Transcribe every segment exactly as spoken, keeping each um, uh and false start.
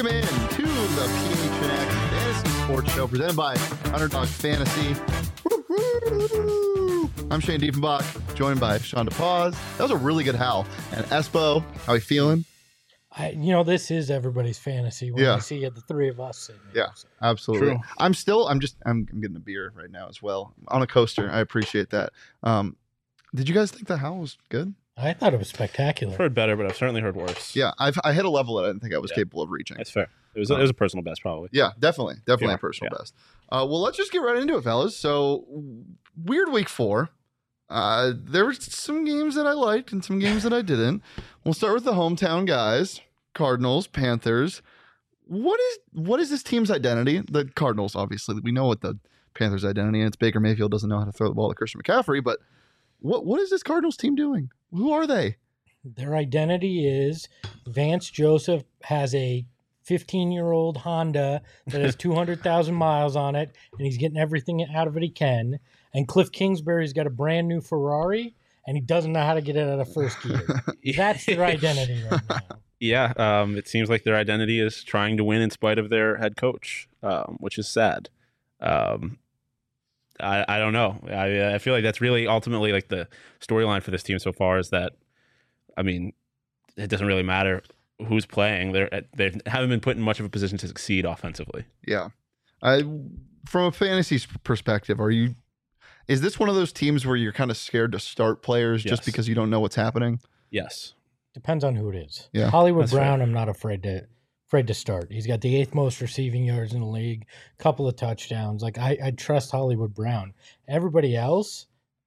Welcome in to the P H N X Fantasy Sports Show presented by Underdog Fantasy. I'm Shane Diefenbach, joined by Sean DePaz. That was a really good howl. And Espo, how you feeling? I, you know, this is everybody's fantasy when Yeah. I see the three of us sitting here. Yeah, absolutely. True. I'm still, I'm just, I'm, I'm getting a beer right now as well on a coaster. I appreciate that. Um, did you guys think the howl was good? I thought it was spectacular. I've heard better, but I've certainly heard worse. Yeah, I've I hit a level that I didn't think I was Yeah. capable of reaching. That's fair. It was, a, it was a personal best, probably. Yeah, definitely. Definitely Yeah, a personal yeah. best. Uh, well, let's just get right into it, fellas. So, weird week four. Uh, there were some games that I liked and some games that I didn't. We'll start with the hometown guys, Cardinals, Panthers. What is what is this team's identity? The Cardinals, obviously. We know what the Panthers' identity is. It's Baker Mayfield doesn't know how to throw the ball to Christian McCaffrey, but what what is this Cardinals team doing? Who are they? Their identity is Vance Joseph has a fifteen-year-old Honda that has two hundred thousand miles on it, and he's getting everything out of it he can. And Cliff Kingsbury's got a brand new Ferrari, and he doesn't know how to get it out of first gear. That's their identity right now. Yeah, um, it seems like their identity is trying to win in spite of their head coach, um, which is sad. Um, I, I don't know. I, I feel like that's really ultimately like the storyline for this team so far is that, I mean, it doesn't really matter who's playing. They're they haven't been put in much of a position to succeed offensively. Yeah. I from a fantasy s- perspective, are you is this one of those teams where you're kind of scared to start players just Yes. because you don't know what's happening? Yes. Depends on who it is. Yeah, Hollywood that's Brown, fair. I'm not afraid to afraid to start. He's got the eighth most receiving yards in the league, couple of touchdowns. Like I, I trust Hollywood Brown. Everybody else,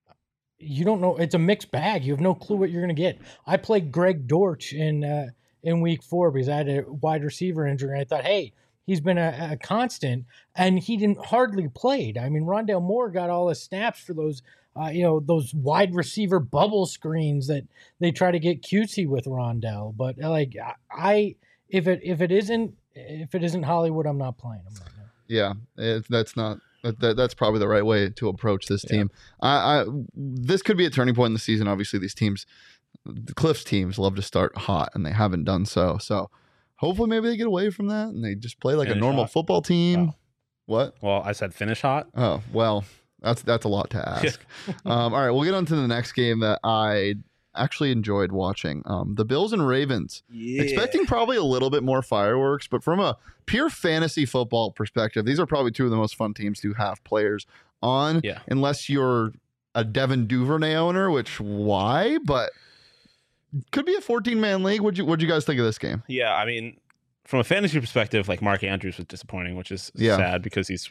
you don't know. It's a mixed bag. You have no clue what you're going to get. I played Greg Dortch in uh, in week four because I had a wide receiver injury, and I thought, hey, he's been a, a constant, and he didn't hardly played. I mean, Rondale Moore got all his snaps for those. Uh, you know, those wide receiver bubble screens that they try to get cutesy with Rondell. But like I, if it if it isn't if it isn't Hollywood, I'm not playing him right now. Yeah, it, that's not that, that- that's probably the right way to approach this team. I, I this could be a turning point in the season. Obviously, these teams, the Cliffs teams, love to start hot, and they haven't done so. So hopefully, maybe they get away from that and they just play like a Finish normal hot. football team. Oh. What? Well, I said finish hot. Oh, well, that's that's a lot to ask. um, all right, we'll get on to the next game that I actually enjoyed watching. Um, the Bills and Ravens. Yeah. Expecting probably a little bit more fireworks, but from a pure fantasy football perspective, these are probably two of the most fun teams to have players on. Yeah. Unless you're a Devin Duvernay owner, which why? But could be a fourteen-man league. What'd you What'd you guys think of this game? Yeah, I mean, from a fantasy perspective, like Mark Andrews was disappointing, which is Yeah. sad because he's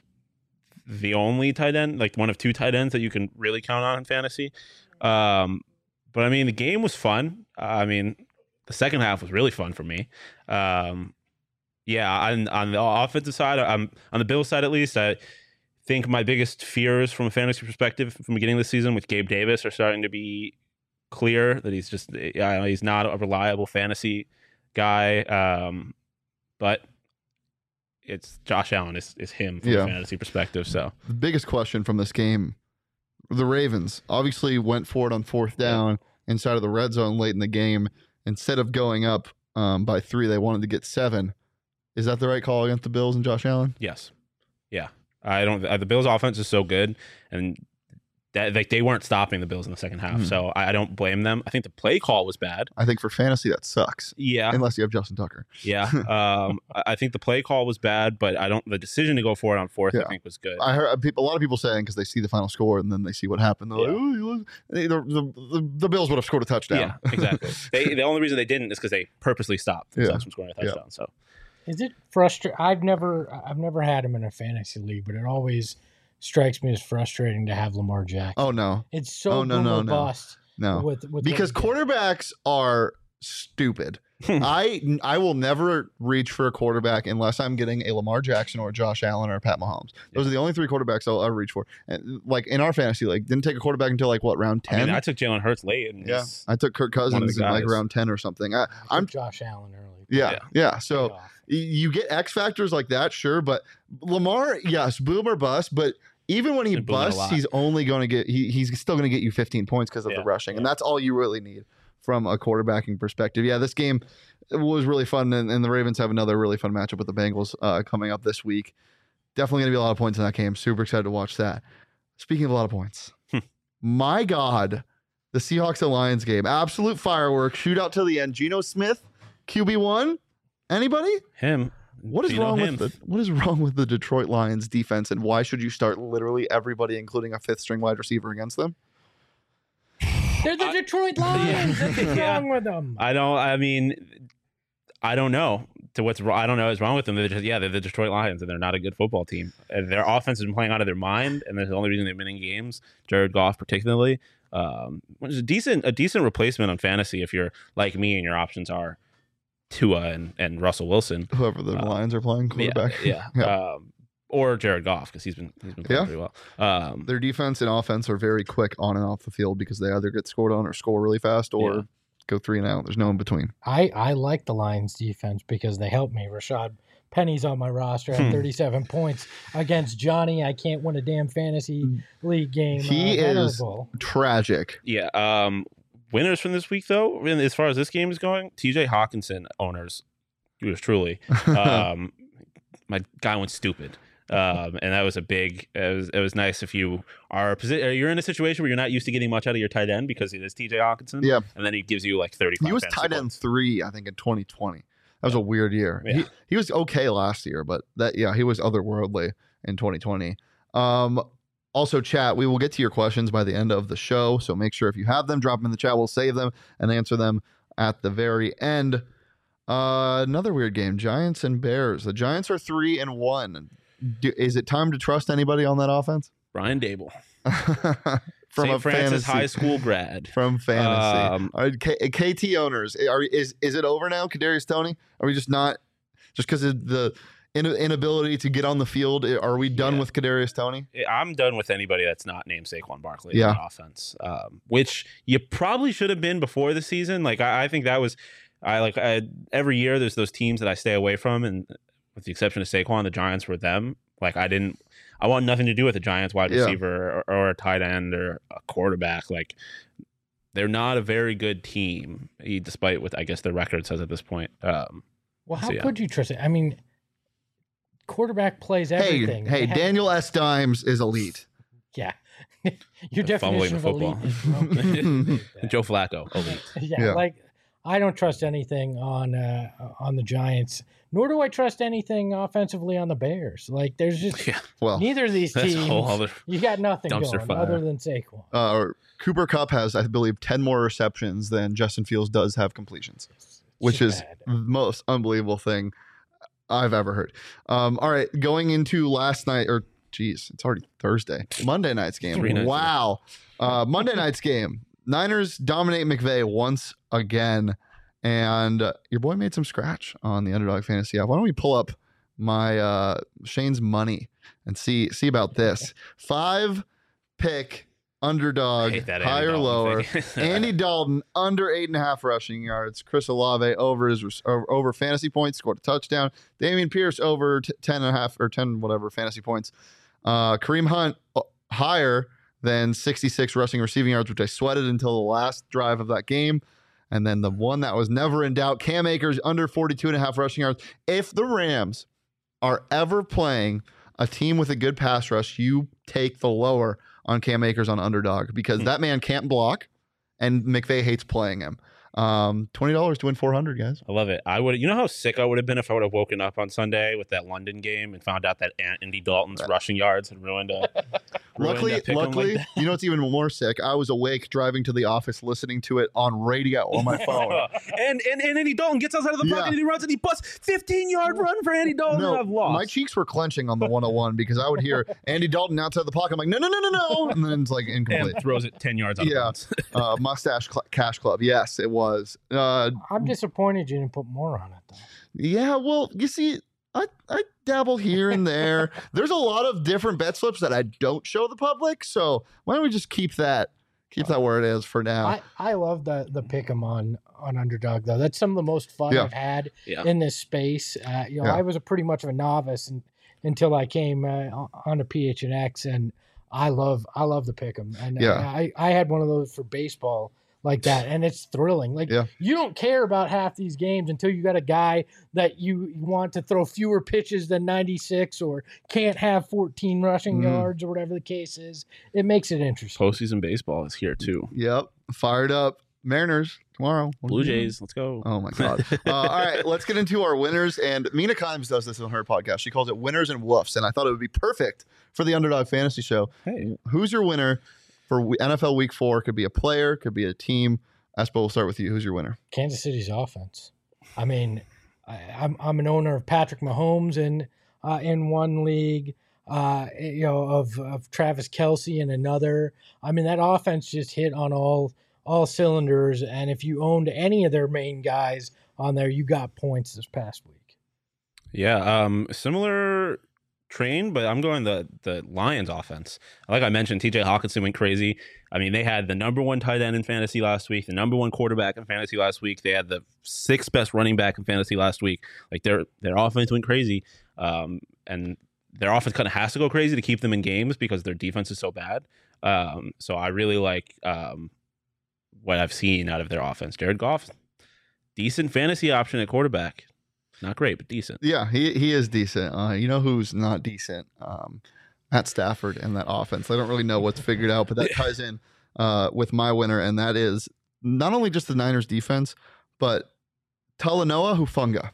the only tight end, like one of two tight ends that you can really count on in fantasy. Um, but I mean, the game was fun. Uh, I mean, the second half was really fun for me. Um, yeah, on, on the offensive side, um, on the Bills side at least, I think my biggest fears from a fantasy perspective from the beginning of the season with Gabe Davis are starting to be clear that he's just uh, he's not a reliable fantasy guy. Um, but it's Josh Allen is, is him from Yeah. a fantasy perspective. So The biggest question from this game, the Ravens obviously went for it on fourth down inside of the red zone late in the game. Instead of going up um, by three, they wanted to get seven. Is that the right call against the Bills and Josh Allen? yes, yeah, I don't. Uh, the Bills' offense is so good, and that like they weren't stopping the Bills in the second half. Hmm. So I, I don't blame them. I think the play call was bad. I think for fantasy that sucks, Yeah, unless you have Justin Tucker. yeah. Um, I I think the play call was bad, but I don't. The decision to go for it on fourth, Yeah. I think, was good. I heard people, a lot of people saying because they see the final score and then they see what happened. They're like, Yeah. "Oh, you look-" the, the, the, the Bills would have scored a touchdown. Yeah, exactly. they, the only reason they didn't is because they purposely stopped the Yeah. Bucs from scoring a Yeah. touchdown. So Is it frustrating? I've never I've never had him in a fantasy league, but it always strikes me as frustrating to have Lamar Jackson. Oh no, It's so Oh, no, boom no, or no. bust no. with, with Because what he does. quarterbacks are stupid. I I will never reach for a quarterback unless I'm getting a Lamar Jackson or a Josh Allen or a Pat Mahomes. Those are the only three quarterbacks I'll ever reach for. And like in our fantasy league, didn't take a quarterback until like what, round I ten? mean, I took Jalen Hurts late, and yeah, he's- I took Kirk one of Cousins the in like guys. round ten or something. I, I took I'm Josh Allen early. yeah, Yeah. yeah. So. Paid off. Y- You get X factors like that, sure, but Lamar, yes, boom or bust. But even when he Been booming a busts, lot. he's only going to get he, he's still going to get you fifteen points because of Yeah, the rushing, and yeah. that's all you really need from a quarterbacking perspective. Yeah, this game, it was really fun, and, and the Ravens have another really fun matchup with the Bengals uh, coming up this week. Definitely going to be a lot of points in that game. Super excited to watch that. Speaking of a lot of points, my God, the Seahawks and Lions game, absolute fireworks, shootout to the end. Geno Smith, Q B one. Anybody? Him. What is Geno wrong him. with the What is wrong with the Detroit Lions defense, and why should you start literally everybody, including a fifth string wide receiver, against them? They're the Detroit Lions. What's Yeah. wrong with them? I don't. I mean, I don't know to what's wrong. I don't know what's wrong with them. They're just yeah, they're the Detroit Lions, and they're not a good football team. And their offense has been playing out of their mind, and that's the only reason they've been in games. Jared Goff, particularly, um, which is a decent a decent replacement on fantasy if you're like me and your options are Tua and, and Russell Wilson, Whoever the Uh, Lions are playing quarterback. yeah, yeah, Um, or Jared Goff because he's been he's been playing Yeah. pretty well. Um, Their defense and offense are very quick on and off the field because they either get scored on or score really fast or Yeah. go three and out. There's no in between. I, I like the Lions defense because they help me. Rashad Penny's on my roster at Hmm. thirty-seven points against Johnny. I can't win a damn fantasy league game. He uh, is- venerable. Tragic. yeah. Um, winners from this week though, and as far as this game is going, T J Hawkinson owners, yours truly. Um, my guy went stupid. Um, and that was a big. It was, it was nice if you are posi- you're in a situation where you're not used to getting much out of your tight end because it is T J Hawkinson. Yeah. and then he gives you like thirty-five. He was fantasy tight end points. three, I think, in twenty twenty. That was a weird year. Yeah. He, he was okay last year, but that yeah, he was otherworldly in twenty twenty. Um, also, chat, we will get to your questions by the end of the show, so make sure if you have them, drop them in the chat. We'll save them and answer them at the very end. Uh, another weird game, Giants and Bears. The Giants are three and one. Do, is it time to trust anybody on that offense? Brian Dable, From Saint a Francis fantasy, High School grad. from fantasy. Um, All right, K- KT owners, are is is it over now? Kadarius Toney? Are we just not just because of the in- inability to get on the field? Are we done Yeah. with Kadarius Toney? I'm done with anybody that's not named Saquon Barkley Yeah. on the offense, um, which you probably should have been before the season. Like I, I think that was, I like I, every year there's those teams that I stay away from, and with the exception of Saquon, the Giants were them. Like I didn't, I want nothing to do with the Giants wide Yeah. receiver or, or a tight end or a quarterback. Like they're not a very good team, eh, despite what I guess their record says at this point. Um, Well, how So, yeah. could you trust it? I mean, quarterback plays everything. Hey, hey, They have- Daniel S. Dimes is elite. Yeah. Your Fumbling definition the of elite football. is wrong. Joe Flacco, elite. yeah, Yeah. like I don't trust anything on uh, on the Giants, nor do I trust anything offensively on the Bears. Like there's just Yeah, Well, neither of these that's a teams. whole other. You got nothing dumpster going fire. other than Saquon. uh, Cooper Kupp has, I believe, ten more receptions than Justin Fields does have completions, It's which just is bad. the most unbelievable thing I've ever heard. Um, all right, going into last night, or geez, it's already Thursday, Monday night's game. Three nights Wow. Uh, Monday night's game. Niners dominate McVay once again. And uh, your boy made some scratch on the Underdog Fantasy app. Why don't we pull up my uh, Shane's money and see see about this? Five pick underdog, Hate that Andy higher Dalton lower. thing. Andy Dalton under eight and a half rushing yards. Chris Olave over his over, over fantasy points, scored a touchdown. Damian Pierce over t- ten and a half or ten whatever fantasy points. Uh, Kareem Hunt uh, higher than sixty-six rushing receiving yards, which I sweated until the last drive of that game. And then the one that was never in doubt, Cam Akers under forty-two and a half rushing yards. If the Rams are ever playing a team with a good pass rush, you take the lower on Cam Akers on underdog because Hmm. that man can't block and McVay hates playing him. Um, twenty dollars to win four hundred, guys. I love it. I would, you know how sick I would have been if I would have woken up on Sunday with that London game and found out that An- Andy Dalton's rushing yards had ruined a. ruined Luckily, a pick 'em like luckily, that. you know what's even more sick? I was awake driving to the office listening to it on radio on my phone. and, and and Andy Dalton gets outside of the pocket Yeah. and he runs and he busts fifteen yard run for Andy Dalton. No, and I've lost. my cheeks were clenching on the one oh one because I would hear Andy Dalton outside the pocket. I'm like, no, no, no, no, no. And then it's like incomplete. and throws it ten yards out Yeah. of bounds. Uh, Mustache Cl- Cash Club. Yes, it was. Uh, I'm disappointed you didn't put more on it though. yeah, well, you see, I, I dabble here and there. There's a lot of different bet slips that I don't show the public. So why don't we just keep that keep that where it is for now? I, I love the the pick 'em on on underdog though. That's some of the most fun Yeah. I've had Yeah. in this space. Uh, you know, Yeah. I was a pretty much of a novice and, until I came uh, on to P H N X, and I love I love the pick 'em. And Yeah. uh, I I had one of those for baseball like that, and it's thrilling. Like Yeah. you don't care about half these games until you got a guy that you want to throw fewer pitches than ninety-six or can't have fourteen rushing Mhm. yards or whatever the case is. It makes it interesting. Postseason baseball is here too. Yep. Fired up. Mariners tomorrow. What are Blue we doing? Jays, let's go. Oh my god! Uh, all right, let's get into our winners. And Mina Kimes does this on her podcast. She calls it winners and woofs, and I thought it would be perfect for the Underdog Fantasy Show. Hey, Who's your winner for w- N F L Week Four? Could be a player, could be a team. Espo, we'll start with you. Who's your winner? Kansas City's offense. I mean, I, I'm I'm an owner of Patrick Mahomes in uh, in one league. Uh, you know, of of Travis Kelce in another. I mean, that offense just hit on all all cylinders. And if you owned any of their main guys on there, you got points this past week. yeah, um, similar train, but I'm going the the Lions offense. Like I mentioned, T J Hawkinson went crazy. I mean, they had the number one tight end in fantasy last week, the number one quarterback in fantasy last week. They had the sixth best running back in fantasy last week. Like their their offense went crazy, um, and their offense kind of has to go crazy to keep them in games because their defense is so bad. Um, so I really like um, what I've seen out of their offense. Jared Goff, decent fantasy option at quarterback. Not great, but decent. Yeah, he he is decent. Uh, you know who's not decent? Um, Matt Stafford and that offense. I don't really know what's figured out, but that ties in uh, with my winner, and that is not only just the Niners defense, but Talanoa Hufanga,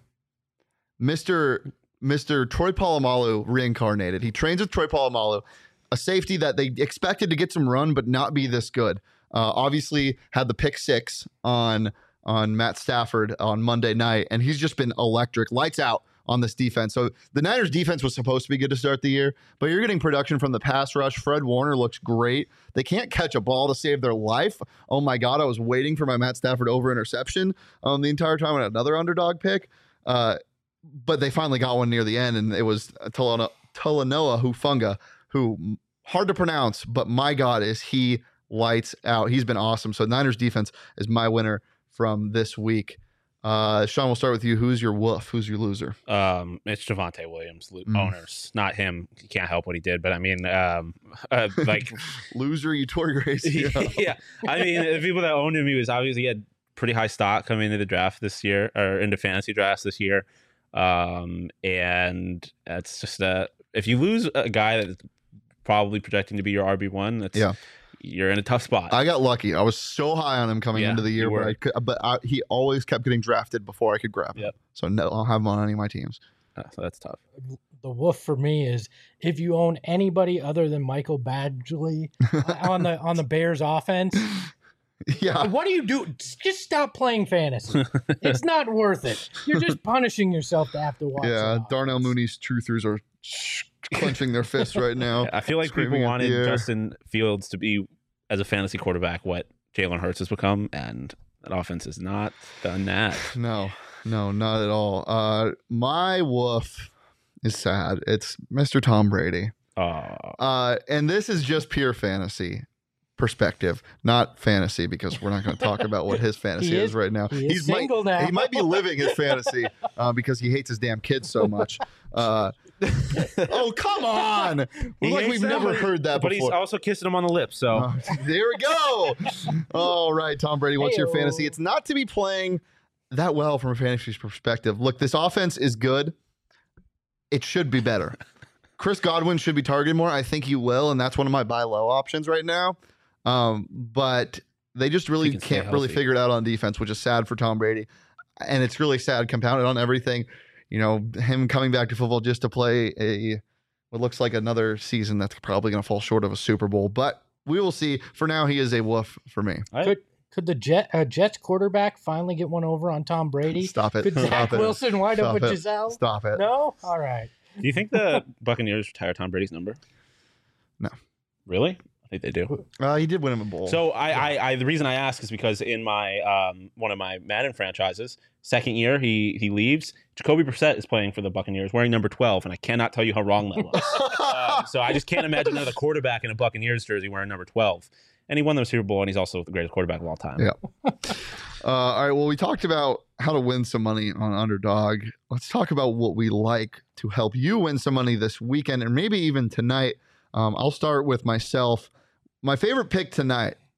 Mister Mister Troy Polamalu reincarnated. He trains with Troy Polamalu, a safety that they expected to get some run, but not be this good. Uh, obviously, had the pick six on on Matt Stafford on Monday night, and he's just been electric, lights out on this defense. So the Niners defense was supposed to be good to start the year, but you're getting production from the pass rush. Fred Warner looks great. They can't catch a ball to save their life. Oh my God, I was waiting for my Matt Stafford over interception um, the entire time on another underdog pick. Uh, but they finally got one near the end, and it was Talanoa Hufanga, who hard to pronounce, but my God, is he lights out. He's been awesome. So Niners defense is my winner from this week. Uh, Sean, we'll start with you. Who's your woof? Who's your loser? Um, it's Javonte Williams, lo- Mm. owners, not him. He can't help what he did, but I mean, um, uh, like, Loser, you tore your A C L. yeah. I mean, the people that owned him, he was obviously he had pretty high stock coming into the draft this year or into fantasy drafts this year. Um, and that's just uh if you lose a guy that's probably projecting to be your R B one, that's Yeah. you're in a tough spot. I got lucky. I was so high on him coming Yeah, into the year, you but were. I could, but I, he always kept getting drafted before I could grab him. Yep. So no, I'll have him on any of my teams. Uh, so that's tough. The woof for me is if you own anybody other than Michael Badgley on the on the Bears offense, Yeah. what do you do? Just stop playing fantasy. It's not worth it. You're just punishing yourself to have to watch. Yeah. the Darnell offense. Mooney's truthers are clenching their fists right now. I feel like Screaming people at wanted the air. Justin Fields to be as a fantasy quarterback what Jalen Hurts has become, and that offense has not done that. No, no, not at all. Uh, my woof is sad. It's Mister Tom Brady. Oh, Uh, and this is just pure fantasy perspective, not fantasy, because we're not going to talk about what his fantasy He is, is- right now. he is He's might, single now. he might be living his fantasy uh, because he hates his damn kids so much. Uh, oh, come on. He Like hates we've them, never but- heard that but he's before. also kissing him on the lips. So Uh, there we go. All right, Tom Brady, what's your Heyo. fantasy? It's not to be playing that well from a fantasy perspective. Look, this offense is good. It should be better. Chris Godwin should be targeted more. I think he will, and that's one of my buy low options right now. Um, but they just really He can stay can't really healthy. figure it out on defense, which is sad for Tom Brady. And it's really sad, compounded on everything. You know, him coming back to football just to play a what looks like another season that's probably going to fall short of a Super Bowl. But we will see. For now, he is a woof for me. I- Could could the Jet uh, Jets quarterback finally get one over on Tom Brady? Stop it. Could Stop Zach it. Wilson wind Stop up with it. Giselle? Stop it. No? All right. do you think the Buccaneers retire Tom Brady's number? No. Really? I think they do. Uh, he did win him a bowl. So I, I, I, the reason I ask is because in my um, one of my Madden franchises, second year he he leaves. Jacoby Brissett is playing for the Buccaneers, wearing number twelve, and I cannot tell you how wrong that was. um, so I just can't imagine another quarterback in a Buccaneers jersey wearing number twelve. And he won the Super Bowl, and he's also the greatest quarterback of all time. Yeah. Uh, all right. Well, we talked about how to win some money on Underdog. Let's talk about what we like to help you win some money this weekend and maybe even tonight. Um, I'll start with myself. My favorite pick tonight,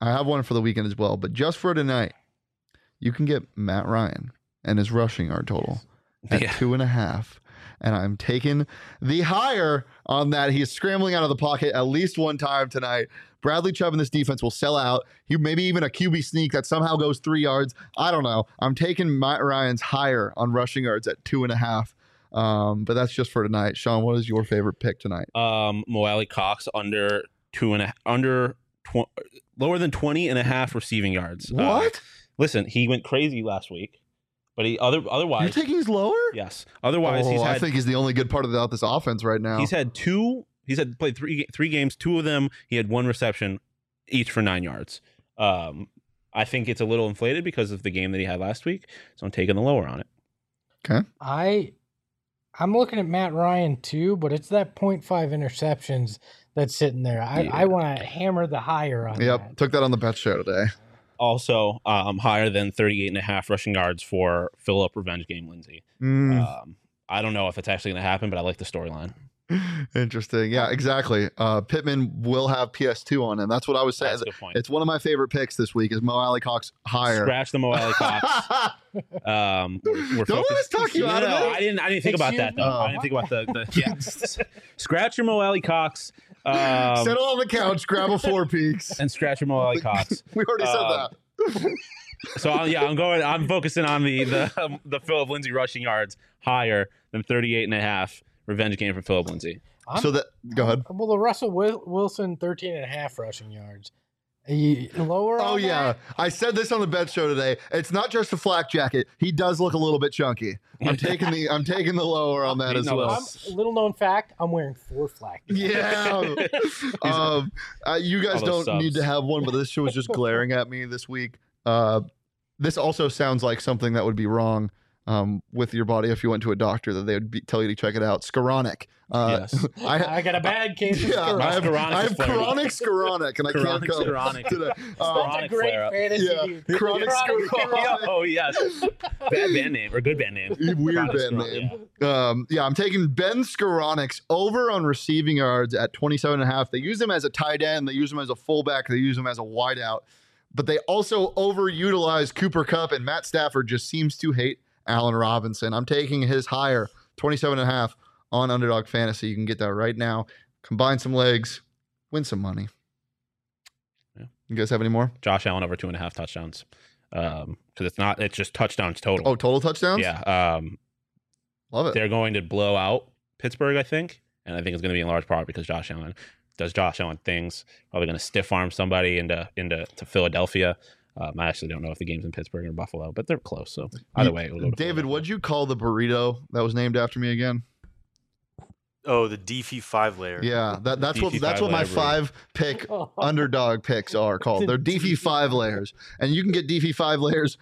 I have one for the weekend as well, but just for tonight, you can get Matt Ryan and his rushing yard total at Yeah. two and a half. And I'm taking the higher on that. He is scrambling out of the pocket at least one time tonight. Bradley Chubb in this defense will sell out. He maybe even a Q B sneak that somehow goes three yards. I don't know. I'm taking Matt Ryan's higher on rushing yards at two and a half. Um, but that's just for tonight. Sean, what is your favorite pick tonight? Um, Mo Alley Cox under two and a under tw- lower than twenty and a half receiving yards. Uh, What? listen, he went crazy last week, but he other You're otherwise taking his lower? yes. Otherwise, oh, he's I had think he's the only good part about this offense right now. he's had two. He's had played three three games. Two of them, he had one reception, each for nine yards. Um, I think it's a little inflated because of the game that he had last week, so I'm taking the lower on it. Okay. I I'm looking at Matt Ryan too, but it's that point five interceptions that's sitting there. I, Yeah. I want to hammer the higher on Yep. that. Took that on the bet show today. Also, um, higher than thirty-eight and a half rushing yards for Philip Revenge Game Lindsay. Mm, Um, I don't know if it's actually going to happen, but I like the storyline. interesting. Yeah, exactly. Uh, Pittman will have P S two on him. That's what I was saying. That's a good point. It's one of my favorite picks this week is Mo Alley Cox higher. Scratch the Mo Alley Cox. Um, we're, we're Don't let us talk you no, out of no, it. I didn't. I didn't think about that Excuse though. me? I didn't think about the, the yeah. Scratch your Mo Alley Cox. Um, Settle on the couch, grab a Four Peaks. and scratch your Mo Alley Cox. We already said Um, that. So uh, yeah, I'm going. I'm focusing on the the um, the Philip Lindsay rushing yards higher than thirty-eight and a half. Revenge game for Philip Lindsay. I'm- So that go ahead. Well, the Russell Wil- Wilson thirteen and a half rushing yards. Are you lower Oh on yeah, that? I said this on the bet show today. It's not just a flak jacket. He does look a little bit chunky. I'm taking the I'm taking the lower on that as No, well. I'm, a little known fact, I'm wearing four flak. Yeah. um, uh, you guys All those don't need subs. to have one, but this show is just glaring at me this week. Uh, this also sounds like something that would be wrong um, with your body if you went to a doctor that they would be, tell you to check it out. Scleronic. Uh, Yes. I, I got a bad case of yeah, I have, Scleronic I have is flaring. chronic scleronic, and I can't Chronic come scleronic. today. That's Um, a Chronic great flare-up. fantasy. yeah, dude. chronic Chronic scleronic. Oh yes, bad band name or good band name. Weird Chronic band Scleronic, name. Um, yeah, I'm taking Ben Skoronix over on receiving yards at twenty-seven and a half. They use him as a tight end. They use him as a fullback. They use him as a wideout. But they also overutilize Cooper Kupp, and Matt Stafford just seems to hate Allen Robinson. I'm taking his higher, twenty-seven and a half on Underdog Fantasy. You can get that right now. Combine some legs, win some money. Yeah. You guys have any more? Josh Allen over two and a half touchdowns. Um, because it's not. It's just touchdowns total. Oh, total touchdowns? yeah. Um, Love it. they're going to blow out Pittsburgh, I think, and I think it's going to be in large part because Josh Allen does Josh Allen things. Probably going to stiff arm somebody into into to Philadelphia. Um, I actually don't know if the game's in Pittsburgh or Buffalo, but they're close. So either way, it'll go to David, Philadelphia. what'd you call the burrito that was named after me again? Oh, the Deefy five layer. Yeah, that, that's what Deefy that's what my five-layer five pick underdog picks are called. They're D F five layers, and you can get D F five layers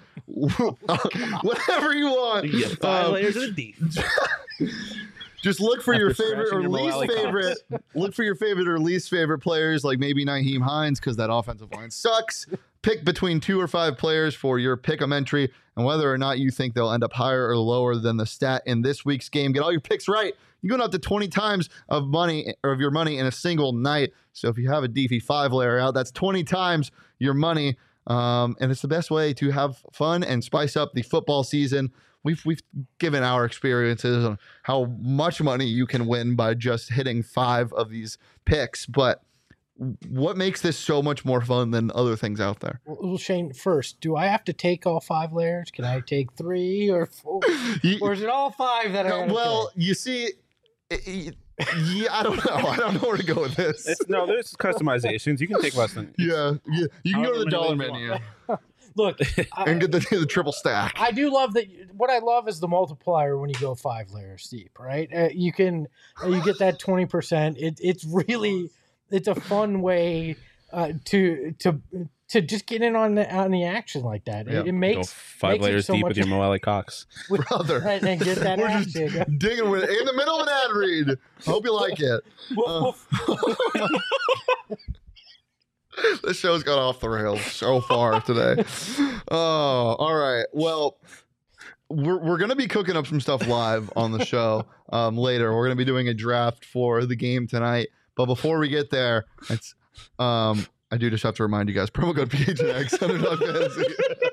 whatever you want. You get five Um, layers of the deep. Just look for After your favorite scratching or your Mo least Alley Cox. favorite. Look for your favorite or least favorite players, like maybe Naheem Hines, because that offensive line sucks. Pick between two or five players for your pick 'em entry, and whether or not you think they'll end up higher or lower than the stat in this week's game. Get all your picks right. You're going up to twenty times of money or of your money in a single night. So if you have a D F five layer out, that's twenty times your money. Um, and it's the best way to have fun and spice up the football season. We've we've given our experiences on how much money you can win by just hitting five of these picks. But what makes this so much more fun than other things out there? Well, Shane, first, do I have to take all five layers? Can I take three or four? You- Or is it all five that I gotta well, you see, it- it- yeah, I don't know. I don't know where to go with this. It's, no, there's customizations. You can take less than. yeah, yeah, you can go to the However many dollar ways you menu take? Look, and I, get the, the triple stack. I do love that. What I love is the multiplier when you go five layers deep, right? Uh, you can, uh, you get that twenty percent. It, it's really, it's a fun way uh, to to to just get in on the on the action like that. Yeah. It, it Go makes five makes it layers so deep much- with your Mo Alley Cox. Brother. right, and get that We're just action. digging with in the middle of an ad read. Hope you like it. Woof, woof. This show's got off the rails so far today. Oh, all right. Well, we're we're gonna be cooking up some stuff live on the show um, later. We're gonna be doing a draft for the game tonight. But before we get there, it's um, I do just have to remind you guys, promo code P H N X, Underdog Fantasy.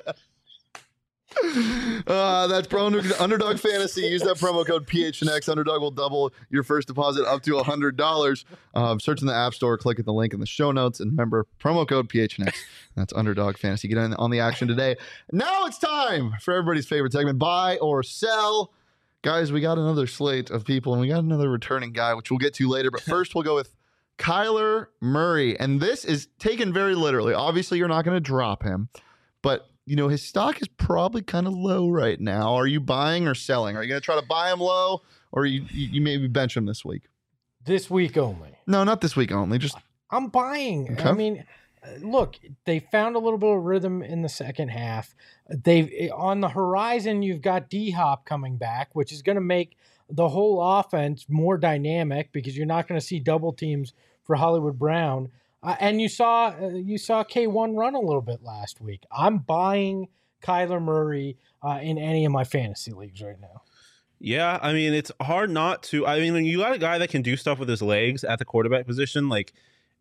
Uh, that's pro Underdog Fantasy. Use that promo code P H N X. Underdog will double your first deposit up to one hundred dollars. Um, search in the App Store, click at the link in the show notes, and remember, promo code P H N X. That's Underdog Fantasy. Get in on the action today. Now it's time for everybody's favorite segment, buy or sell. Guys, we got another slate of people, and we got another returning guy, which we'll get to later. But first, we'll go with Kyler Murray. And this is taken very literally. Obviously, you're not going to drop him, but you know, his stock is probably kind of low right now. Are you buying or selling? Are you going to try to buy him low, or you, you you maybe bench him this week? This week only. No, not this week only. Just I'm buying. Okay. I mean, look, they found a little bit of rhythm in the second half. They on the horizon, you've got D-Hop coming back, which is going to make the whole offense more dynamic because you're not going to see double teams for Hollywood Brown. Uh, and you saw uh, you saw K one run a little bit last week. I'm buying Kyler Murray uh, in any of my fantasy leagues right now. Yeah, I mean, it's hard not to. I mean, when you got a guy that can do stuff with his legs at the quarterback position, like,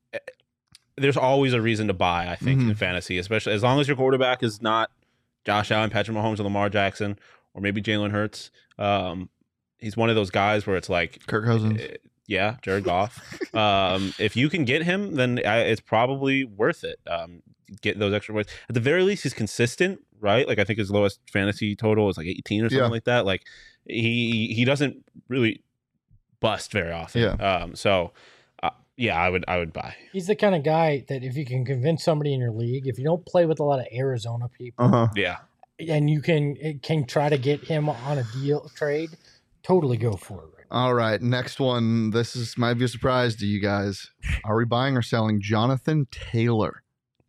there's always a reason to buy, I think, Mhm. in fantasy, especially as long as your quarterback is not Josh Allen, Patrick Mahomes, or Lamar Jackson, or maybe Jalen Hurts. Um, he's one of those guys where it's like, Kirk Cousins. uh, yeah, Jared Goff. um, if you can get him, then I, it's probably worth it. Um, get those extra points. At the very least, he's consistent, right? Like, I think his lowest fantasy total is like eighteen or something Yeah. like that. Like, he he doesn't really bust very often. Yeah. Um, so, uh, yeah, I would I would buy. He's the kind of guy that if you can convince somebody in your league, if you don't play with a lot of Arizona people, Uh-huh. Yeah. and you can can try to get him on a deal trade, totally go for it. Right? All right, next one. This is might be a surprise to you guys. Are we buying or selling Jonathan Taylor?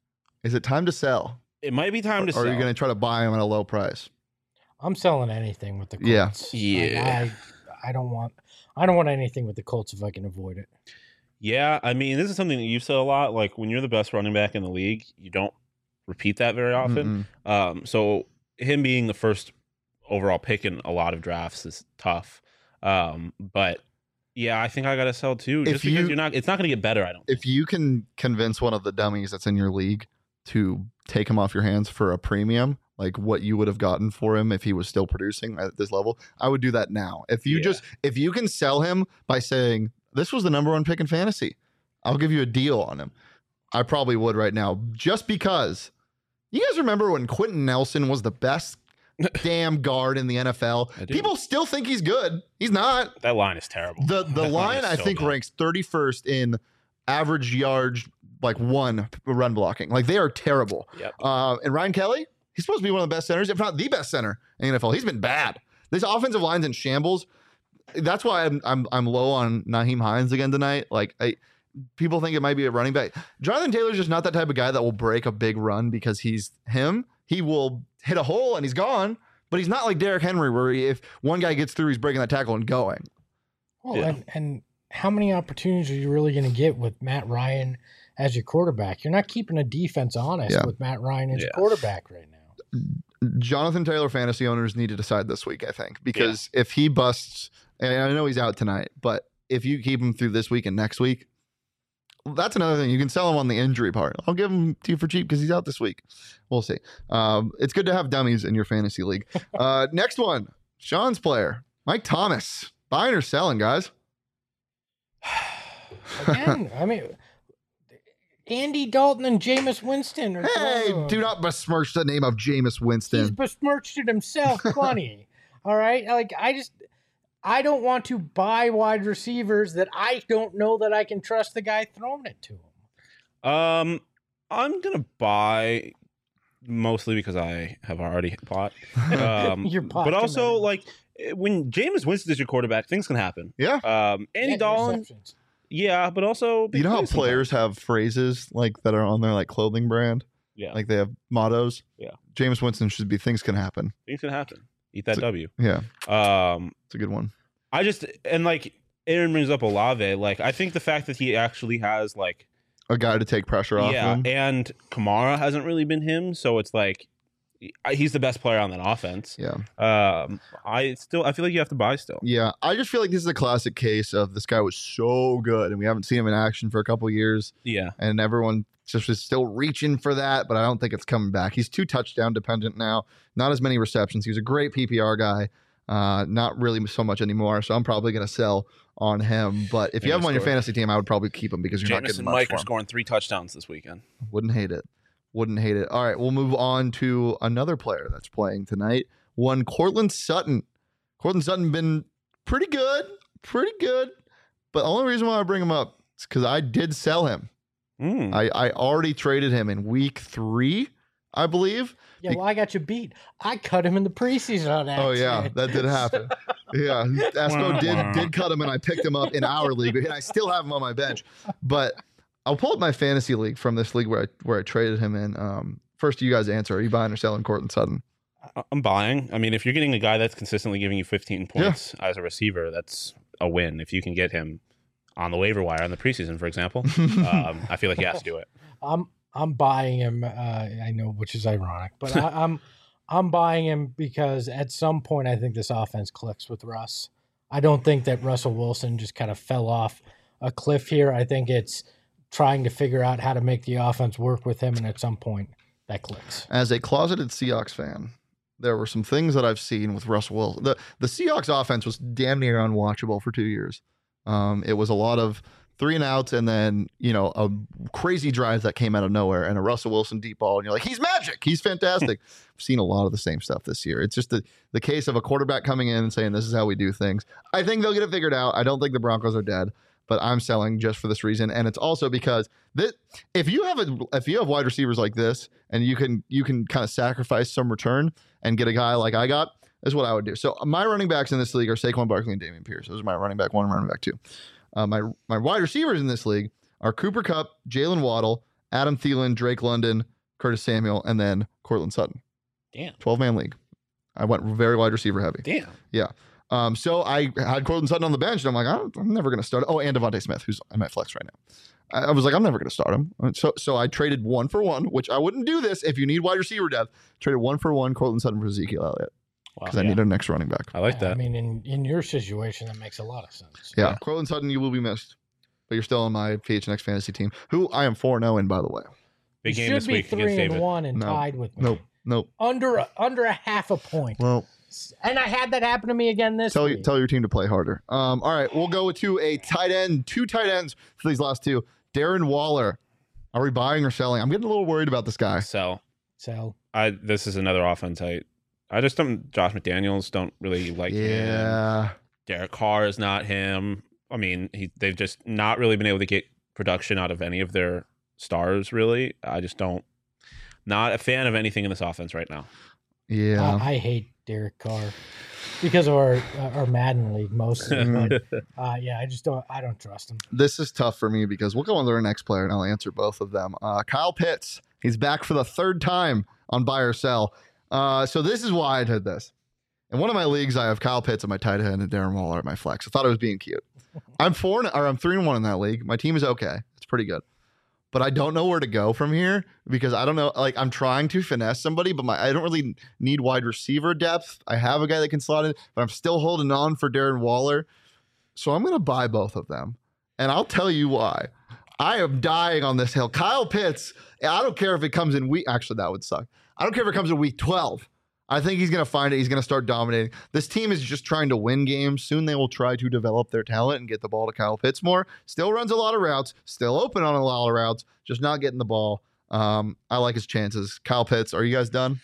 Is it time to sell? It might be time to Or sell. are you going to try to buy him at a low price? I'm selling anything with the Yeah. Colts. Like, Yeah. I, I don't want I don't want anything with the Colts if I can avoid it. Yeah, I mean, this is something that you've said a lot. Like, when you're the best running back in the league, you don't repeat that very often. Mm-mm. Um, so him being the first overall pick in a lot of drafts is tough. Um, but yeah, I think I got to sell too, If just because you- you, are not. It's not going to get better. I don't. If you can convince one of the dummies that's in your league to take him off your hands for a premium, like what you would have gotten for him if he was still producing at this level, I would do that now. If you Yeah. just if you can sell him by saying this was the number one pick in fantasy, I'll give you a deal on him. I probably would right now, just because. You guys remember when Quentin Nelson was the best damn guard in the N F L? I do. People still think he's good. He's not. That line is terrible. The the That line is I so think bad. ranks thirty-first in average yards, like one run blocking. Like they are terrible. Yep. Uh, and Ryan Kelly, he's supposed to be one of the best centers, if not the best center in the N F L. He's been bad. This offensive line's in shambles. That's why I'm I'm I'm low on Naheem Hines again tonight. Like I, people think it might be a running back. Jonathan Taylor's just not that type of guy that will break a big run because he's him. He will hit a hole and he's gone. But he's not like Derrick Henry, where he, if one guy gets through, he's breaking that tackle and going. Well, Yeah. and, and how many opportunities are you really going to get with Matt Ryan as your quarterback? You're not keeping a defense honest Yeah. with Matt Ryan as your Yeah. quarterback right now. Jonathan Taylor fantasy owners need to decide this week, I think, because if he busts, and I know he's out tonight, but if you keep him through this week and next week, that's another thing. You can sell him on the injury part. I'll give him to you for cheap because he's out this week. We'll see. Um, it's good to have dummies in your fantasy league. Uh, next one, Sean's player, Mike Thomas. Buying or selling, guys? Again, I mean, Andy Dalton and Jameis Winston. Are Hey, throwing- do not besmirch the name of Jameis He's Winston. besmirched it himself plenty. All right. Like, I just, I don't want to buy wide receivers that I don't know that I can trust the guy throwing it to him. Um, I'm gonna buy mostly because I have already bought. Um, You're pot but also committed. like when Jameis Winston is your quarterback, things can happen. Yeah. Um, Andy Yeah, Dalton, interceptions. yeah, but also big You know how plays players have phrases like that are on their like clothing brand? sometimes. yeah, Like they have mottos. Yeah. Jameis Winston should be things can happen. things can happen. Eat that So- W. Yeah. Um, It's a good one. I just and like Aaron brings up Olave. Like I think the fact that he actually has like A guy to take pressure off yeah, him. and Kamara hasn't really been him, so it's like he's the best player on that offense. Yeah. Um, I still I feel like you have to buy still. Yeah. I just feel like this is a classic case of this guy was so good and we haven't seen him in action for a couple years. Yeah. And everyone just is still reaching for that, but I don't think it's coming back. He's too touchdown dependent now. Not as many receptions. He was a great P P R guy. Uh, not really so much anymore. So I'm probably going to sell on him. But if you Yeah, have him on your score. fantasy team, I would probably keep him because you're not Jameis getting and much Mike for are him. scoring three touchdowns this weekend. Wouldn't hate it. Wouldn't hate it. All right, we'll move on to another player that's playing tonight. One Cortland Sutton. Cortland Sutton been pretty good, pretty good. But the only reason why I bring him up is because I did sell him. Mm. I, I already traded him in week three, I believe. Yeah, well, I got you beat. I cut him in the preseason on accident. Oh yeah, that did happen. Yeah, Esco did did cut him, and I picked him up in our league, and I still have him on my bench. But I'll pull up my fantasy league from this league where I where I traded him in. Um, first, you guys answer: are you buying or selling Cortland Sutton? I'm buying. I mean, if you're getting a guy that's consistently giving you fifteen points as a receiver, that's a win. If you can get him on the waiver wire in the preseason, for example, um, I feel like you have to do it. I'm I'm buying him. Uh, I know, which is ironic, but I, I'm I'm buying him because at some point I think this offense clicks with Russ. I don't think that Russell Wilson just kind of fell off a cliff here. I think it's trying to figure out how to make the offense work with him, and at some point that clicks. As a closeted Seahawks fan, there were some things that I've seen with Russell Wilson. The the Seahawks offense was damn near unwatchable for two years. Um, it was a lot of three and outs, and then, you know, a crazy drive that came out of nowhere and a Russell Wilson deep ball. And you're like, he's magic. He's fantastic. I've seen a lot of the same stuff this year. It's just the, the case of a quarterback coming in and saying, this is how we do things. I think they'll get it figured out. I don't think the Broncos are dead, but I'm selling just for this reason. And it's also because that if you have a, if you have wide receivers like this and you can, you can kind of sacrifice some return and get a guy like I got, is what I would do. So my running backs in this league are Saquon Barkley and Dameon Pierce. Those are my running back one and running back two. Uh, my my wide receivers in this league are Cooper Kupp, Jalen Waddle, Adam Thielen, Drake London, Curtis Samuel, and then Cortland Sutton. Damn. twelve-man league. I went very wide receiver heavy. Damn. Yeah. Um, so I had Cortland Sutton on the bench, and I'm like, I'm, I'm never going to start. Oh, and Devontae Smith, who's in my flex right now. I, I was like, I'm never going to start him. So so I traded one for one, which I wouldn't do this if you need wide receiver depth. Traded one for one, Cortland Sutton for Ezekiel Elliott. Because Wow, I yeah. need an extra running back. I like I that. mean, in, in your situation, that makes a lot of sense. Yeah, Yeah. Cortland Sutton, you will be missed. But you're still on my P H N X fantasy team, who I am four and oh in, by the way. Big You game should this be week three against and David. one and No. tied with me. Nope, nope. Under a, under a half a point. Well, And I had that happen to me again this tell you, week. tell your team to play harder. Um, all right, we'll go to a tight end, two tight ends for these last two. Darren Waller. Are we buying or selling? I'm getting a little worried about this guy. So So I this is another offense. I I just don't. Josh McDaniels don't really like him. Yeah. Derek Carr is not him. I mean, he they've just not really been able to get production out of any of their stars. Really, I just don't. Not a fan of anything in this offense right now. Yeah. I, I hate Derek Carr because of our our Madden league mostly. but uh, yeah, I just don't. I don't trust him. This is tough for me because we'll go on to our next player and I'll answer both of them. Uh, Kyle Pitts. He's back for the third time on buy or sell. Uh, so this is why I did this. In one of my leagues, I have Kyle Pitts at my tight end and Darren Waller at my flex. I thought I was being cute. I'm four and, or I'm three and one in that league. My team is okay. It's pretty good. But I don't know where to go from here because I don't know. Like I'm trying to finesse somebody, but my I don't really need wide receiver depth. I have a guy that can slot in, but I'm still holding on for Darren Waller. So I'm going to buy both of them. And I'll tell you why. I am dying on this hill. Kyle Pitts, I don't care if it comes in week. Actually, that would suck. I don't care if it comes in week twelve. I think he's going to find it. He's going to start dominating. This team is just trying to win games. Soon they will try to develop their talent and get the ball to Kyle Pitts more. Still runs a lot of routes. Still open on a lot of routes. Just not getting the ball. Um, I like his chances. Kyle Pitts, are you guys done?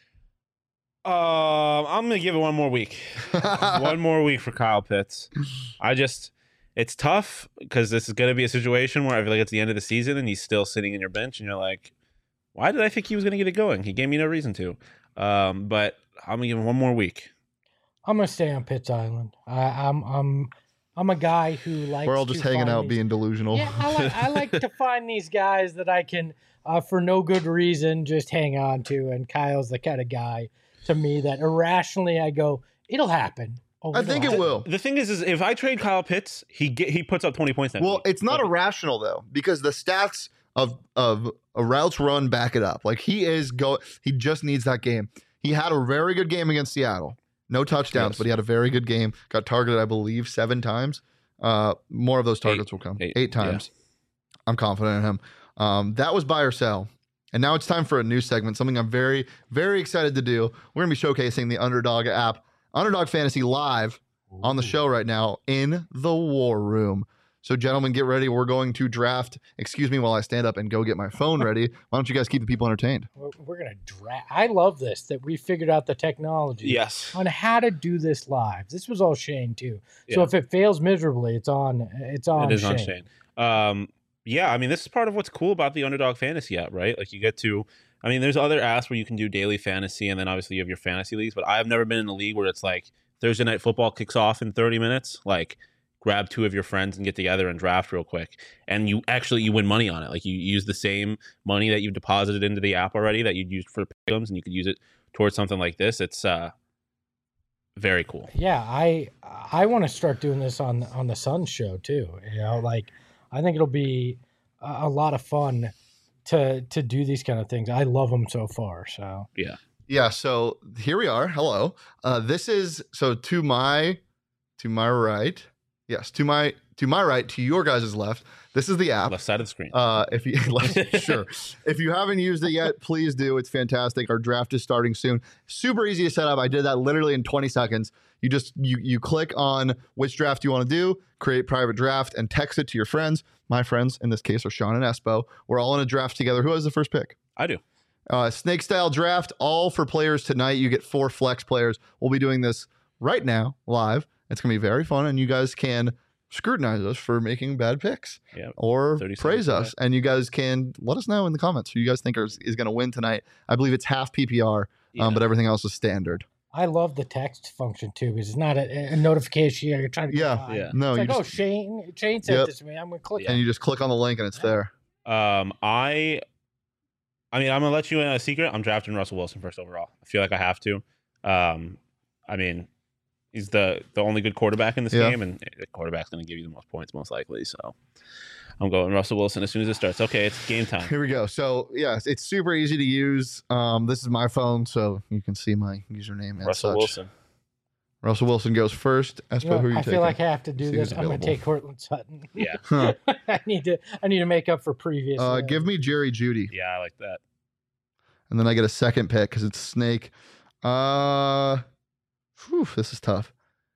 Um, I'm gonna give it one more week. one more week for Kyle Pitts. I just, it's tough because this is gonna be a situation where I feel like it's the end of the season and he's still sitting in your bench, and you're like, why did I think he was gonna get it going? He gave me no reason to. Um, but I'm gonna give him one more week. I'm gonna stay on Pitts Island. I, I'm I'm I'm a guy who likes. We're all just to hanging find out these- being delusional. Yeah, I like I like to find these guys that I can, uh, for no good reason, just hang on to. And Kyle's the kind of guy to me that irrationally I go, it'll happen. Oh, I it'll think it happen. will. The thing is, is if I trade Kyle Pitts, he get he puts up twenty points. That Well, week. it's not Like, irrational though, because the stats of of A routes run, back it up. Like he is go. He just needs that game. He had a very good game against Seattle. No touchdowns, Yes. but he had a very good game. Got targeted, I believe, seven times. Uh, more of those targets Eight. will come. Eight. Eight, times. I'm confident in him. Um, that was buy or sell. And now it's time for a new segment, something I'm very, very excited to do. We're going to be showcasing the Underdog app, Underdog Fantasy Live on the show right now in the War Room. So, gentlemen, get ready. We're going to draft. Excuse me while I stand up and go get my phone ready. Why don't you guys keep the people entertained? We're, we're gonna draft. I love this that we figured out the technology Yes. on how to do this live. This was all Shane too. So Yeah. if it fails miserably, it's on. It's on. It is Shane. on Shane. Um, yeah, I mean, this is part of what's cool about the Underdog Fantasy app, right? Like you get to, I mean, there's other apps where you can do daily fantasy, and then obviously you have your fantasy leagues. But I've never been in a league where it's like Thursday night football kicks off in thirty minutes. Like, grab two of your friends and get together and draft real quick, and you actually you win money on it. Like you use the same money that you deposited into the app already that you'd used for pick'ems, and you could use it towards something like this. It's uh, very cool. Yeah, I I want to start doing this on on the Sun show too. You know, like I think it'll be a, a lot of fun to to do these kind of things. I love them so far. So Yeah. Yeah, so here we are. Hello. Uh, this is so to my to my right. Yes, to my to my right, to your guys' left. This is the app. Left side of the screen. Uh, if you sure, if you haven't used it yet, please do. It's fantastic. Our draft is starting soon. Super easy to set up. I did that literally in twenty seconds. You just you you click on which draft you want to do, create private draft, and text it to your friends. My friends in this case are Sean and Espo. We're all in a draft together. Who has the first pick? I do. Uh, snake style draft, all for players tonight. You get four flex players. We'll be doing this right now, live. It's going to be very fun, and you guys can scrutinize us for making bad picks Yeah. or thirty praise seconds us. And you guys can let us know in the comments who you guys think is, is going to win tonight. I believe it's half P P R, Yeah. um, but everything else is standard. I love the text function too because it's not a, a notification. You're trying to Yeah. get by. Yeah. No, It's you like, oh, just, Shane, Shane sent Yep. this to me. I'm gonna click. Yeah. and you just click on the link and it's there. Um, I, I mean, I'm gonna let you in a secret. I'm drafting Russell Wilson first overall. I feel like I have to. Um, I mean, he's the the only good quarterback in this Yeah. game, and the quarterback's gonna give you the most points most likely. So, I'm going Russell Wilson as soon as it starts. Okay, it's game time. Here we go. So, yes, it's super easy to use. Um, this is my phone, so you can see my username and Russell such. Wilson. Russell Wilson goes first. Espo, You know, who are you I taking? feel like I have to do See this. who's I'm gonna available. take Cortland Sutton. Yeah, Huh. I need to. I need to make up for previous. Uh, give me Jerry Judy. yeah, I like that. And then I get a second pick because it's Snake. Uh, whew, this is tough.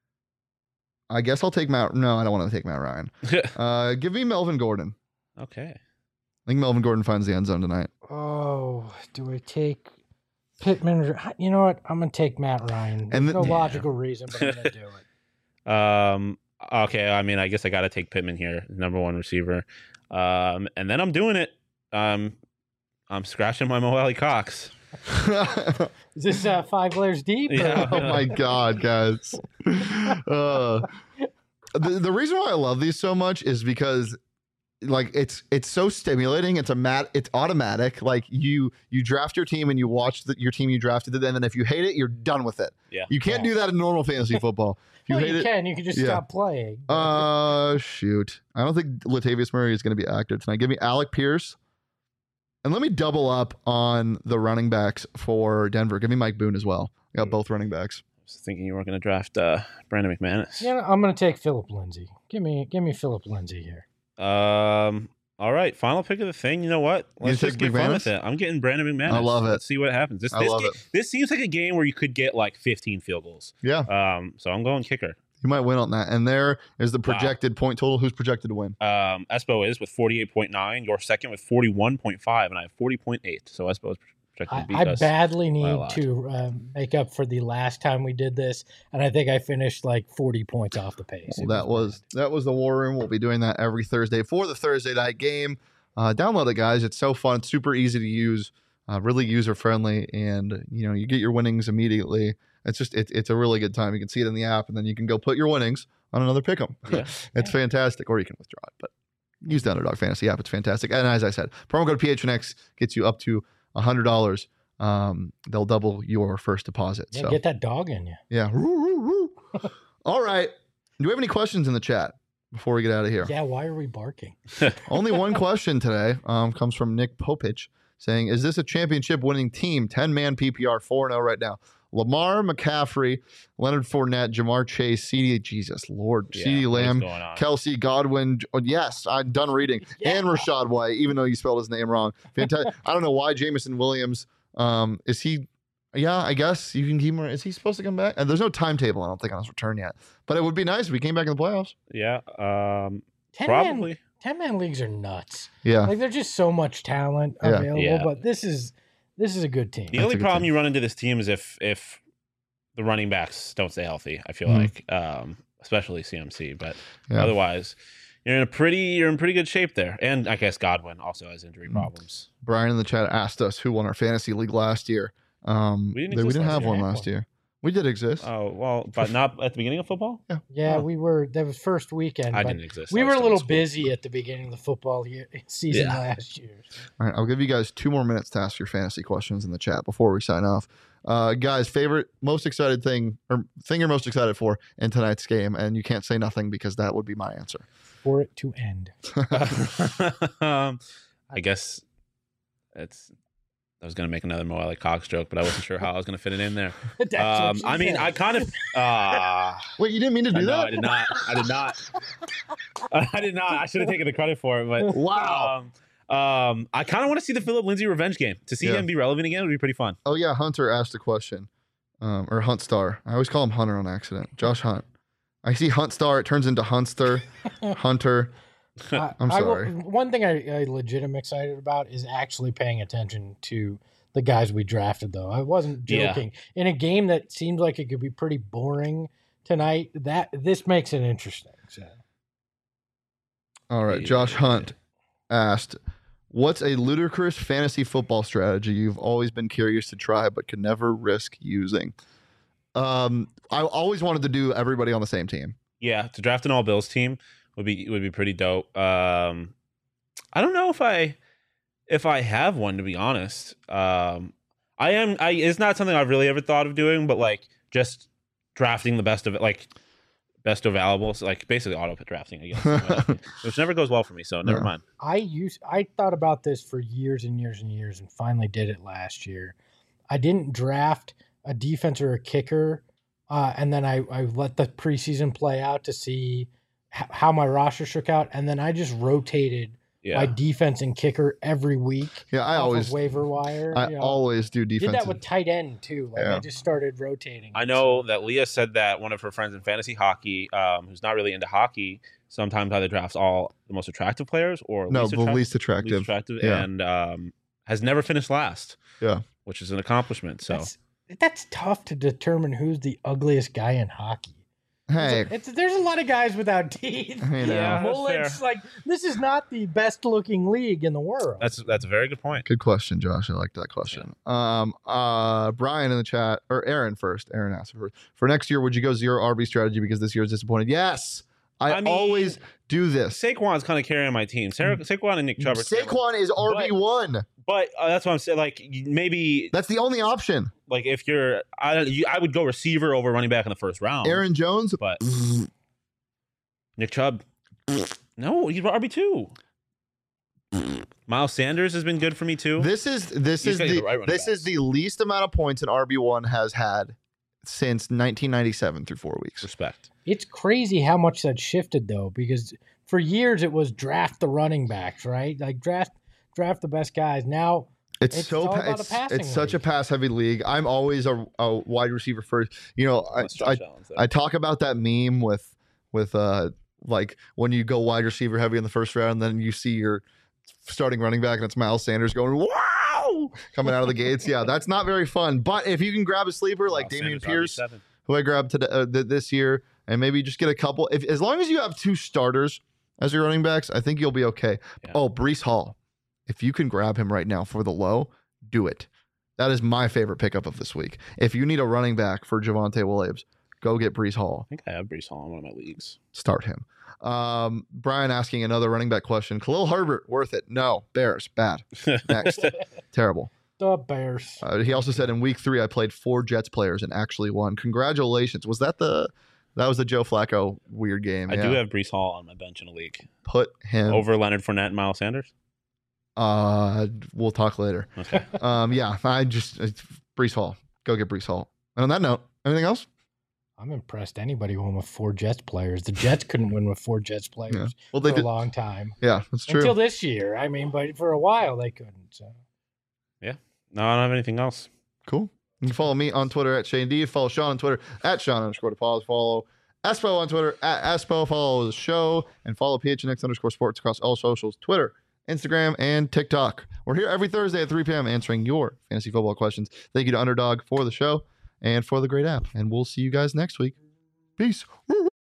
I guess I'll take Matt. No, I don't want to take Matt Ryan. Uh, give me Melvin Gordon. Okay. I think Melvin Gordon finds the end zone tonight. Oh, do I take Pittman? Or, you know what? I'm gonna take Matt Ryan. There's And the- no yeah. logical reason, but I'm gonna do it. Um. Okay. I mean, I guess I got to take Pittman here, number one receiver. Um. And then I'm doing it. Um. I'm scratching my Mo Alley Cox. Is this uh, five layers deep? or- Yeah. Oh my god, guys. Uh, the, the reason why I love these so much is because like it's it's so stimulating. It's a mat it's automatic. Like you you draft your team and you watch the, your team you drafted, and then if you hate it, you're done with it. Yeah. You can't Yeah. do that in normal fantasy football. If you well, hate you it, can. You can just yeah. stop playing. uh shoot. I don't think Latavius Murray is going to be active tonight. Give me Alec Pierce. And let me double up on the running backs for Denver. Give me Mike Boone as well. I got both running backs. I was thinking you were going to draft uh, Brandon McManus. Yeah, I'm gonna take Philip Lindsay. Give me, give me Philip Lindsay here. Um. All right, final pick of the thing. You know what? You Let's take just get fun McManus? with it. I'm getting Brandon McManus. I love it. Let's see what happens. This I this, love ga- it. this seems like a game where you could get like fifteen field goals. Yeah. Um. So I'm going kicker. You might win on that. And there is the projected point total. Who's projected to win? Um. Espo is with forty-eight point nine. You're second with forty-one point five, and I have forty point eight. So Espo is projected I, to beat I us. badly by a need lot. to um, make up for the last time we did this, and I think I finished like forty points off the pace. Well, It that was that was the War Room. We'll be doing that every Thursday for the Thursday night game. Uh, download it, guys. It's so fun. It's super easy to use. Uh, really user friendly, and you know you get your winnings immediately. It's just it, it's a really good time. You can see it in the app, and then you can go put your winnings on another pick'em. Yeah. It's fantastic, or you can withdraw it. But use the Underdog Fantasy app. It's fantastic. And as I said, promo code P H N X gets you up to a hundred dollars. Um, they'll double your first deposit. Yeah, so get that dog in you. yeah. Woo, woo, woo. All right. Do we have any questions in the chat before we get out of here? Yeah, why are we barking? Only one question today um, comes from Nick Popich. saying, is this a championship winning team? ten-man P P R, four and oh right now. Lamar, McCaffrey, Leonard Fournette, Jamar Chase, C D, Jesus Lord, Yeah, C D what is Lamb, going on? Kelsey, Godwin. Oh, yes, I'm done reading. Yeah. And Rashad White, even though you spelled his name wrong. Fantastic. I don't know why Jameson Williams. Um, is he? Yeah, I guess you can keep him. Is he supposed to come back? And there's no timetable, I don't think, on his return yet. But it would be nice if he came back in the playoffs. Yeah, um, ten probably. Man, ten man leagues are nuts. Yeah. Like there's just so much talent Yeah. available. Yeah. But this is this is a good team. The That's only a good problem thing. you run into this team is if if the running backs don't stay healthy. I feel Mhm. like, um, especially C M C, but Yeah. otherwise, you're in a pretty you're in pretty good shape there. And I guess Godwin also has injury Mhm. problems. Brian in the chat asked us who won our fantasy league last year. Um, We didn't we exist didn't last have year. one Had last one. year. We did exist. Oh well, but not at the beginning of football. Yeah, Oh. we were that was first weekend. I but didn't exist. We I were was a still in little school. busy at the beginning of the football year, season Yeah. last year. All right, I'll give you guys two more minutes to ask your fantasy questions in the chat before we sign off. Uh, guys, favorite, most excited thing, or thing you're most excited for in tonight's game, and you can't say nothing because that would be my answer. For it to end. um, I guess it's. I was gonna make another Mo Ali Cox joke, but I wasn't sure how I was gonna fit it in there. That's what Um, she I mean, said. I kind of. Uh, Wait, you didn't mean to do no, that? I did not. I did not. I did not. I should have taken the credit for it, but Wow. Um, um, I kind of want to see the Philip Lindsay revenge game. To see Yeah. him be relevant again would be pretty fun. Oh yeah, Hunter asked a question, um, or Hunt Star. I always call him Hunter on accident. Josh Hunt. I see Hunt Star. It turns into Hunster, Hunter. I- I'm I will- sorry. one thing I, I legit am excited about is actually paying attention to the guys we drafted, though. I wasn't Yeah. joking. In a game that seemed like it could be pretty boring tonight, that this makes it interesting. So. All right, Josh Hunt asked, "What's a ludicrous fantasy football strategy you've always been curious to try but could never risk using?" Um, I always wanted to do everybody on the same team. Yeah, to draft an all Bills team would be would be pretty dope. Um, I don't know if I if I have one, to be honest. Um, I am. I it's not something I've really ever thought of doing, but like just drafting the best of it, like best available, so like basically auto drafting, I guess, which never goes well for me. So never Yeah. mind. I used I thought about this for years and years and years and finally did it last year. I didn't draft a defense or a kicker, uh, and then I, I let the preseason play out to see h- how my roster shook out, and then I just rotated Yeah, my defense and kicker every week. Yeah, I off always, of waiver wire. I you know. always do did defensive. that with tight end too. Like Yeah. I just started rotating. I know that Leah said that one of her friends in fantasy hockey, um, who's not really into hockey, sometimes either drafts all the most attractive players or no, least the attract- least attractive. least attractive, Yeah. and um, has never finished last. Yeah. which is an accomplishment. So That's, that's tough to determine who's the ugliest guy in hockey. Hey, It's, it's, there's a lot of guys without teeth. I know. Yeah. that's Mullets, fair. like this is not the best looking league in the world. that's that's a very good point. Good question, Josh. I like that question. Um, uh, Brian in the chat, or Aaron first. Aaron asked first. For next year, would you go zero R B strategy because this year is disappointed? Yes, I, I mean, always do this. Saquon's kind of carrying my team. Sarah, Saquon and Nick Chubb. are carrying my- Saquon is R B one. but uh, that's what I'm saying. Like maybe, That's the only option. like if you're, I don't- you, I would go receiver over running back in the first round. Aaron Jones. but Nick Chubb, no, he's R B two. Miles Sanders has been good for me too. This is this He's is gotta get the the right running this is backs. the least amount of points an R B one has had since nineteen ninety-seven through four weeks. Respect. It's crazy how much that shifted though, because for years it was draft the running backs, right? Like draft draft the best guys. Now It's, It's so all pa- about a it's, passing it's such a league. pass heavy league. I'm always a, a wide receiver first. You know, I, Let's I stretch Allen's there. I talk about that meme with with uh like when you go wide receiver heavy in the first round, then you see your starting running back and it's Miles Sanders going wow coming out of the gates. Yeah, that's not very fun. But if you can grab a sleeper like Miles Damian Sanders, Pierce, R B seven. who I grabbed today, uh, th- this year, and maybe just get a couple. If as long as you have two starters as your running backs, I think you'll be okay. Yeah. Oh, Brees Hall, if you can grab him right now for the low, do it. That is my favorite pickup of this week. If you need a running back for Javonte Williams, go get Brees Hall. I think I have Brees Hall in one of my leagues. Start him. Um, Brian asking another running back question. Khalil Herbert, worth it? No. Bears, bad. Next. Terrible. the Bears. Uh, he also said in week three, I played four Jets players and actually won. Congratulations. Was that the, that was the Joe Flacco weird game? I Yeah. do have Brees Hall on my bench in a league Put him over Leonard Fournette and Miles Sanders. Uh, we'll talk later. Okay. Um, yeah, I just it's Brees Hall. Go get Brees Hall. And on that note, anything else? I'm impressed anybody won with four Jets players. The Jets couldn't win with four Jets players Yeah. Well, they for did. a long time. Yeah, that's true. Until this year. I mean, but for a while they couldn't. So. No, I don't have anything else. Cool. You can follow me on Twitter at Shane D. Follow Sean on Twitter at Sean underscore DePaul. Follow Espo on Twitter at Espo. Follow the show and follow P H N X underscore sports across all socials, Twitter, Instagram, and TikTok. We're here every Thursday at three p.m. answering your fantasy football questions. Thank you to Underdog for the show and for the great app. And we'll see you guys next week. Peace.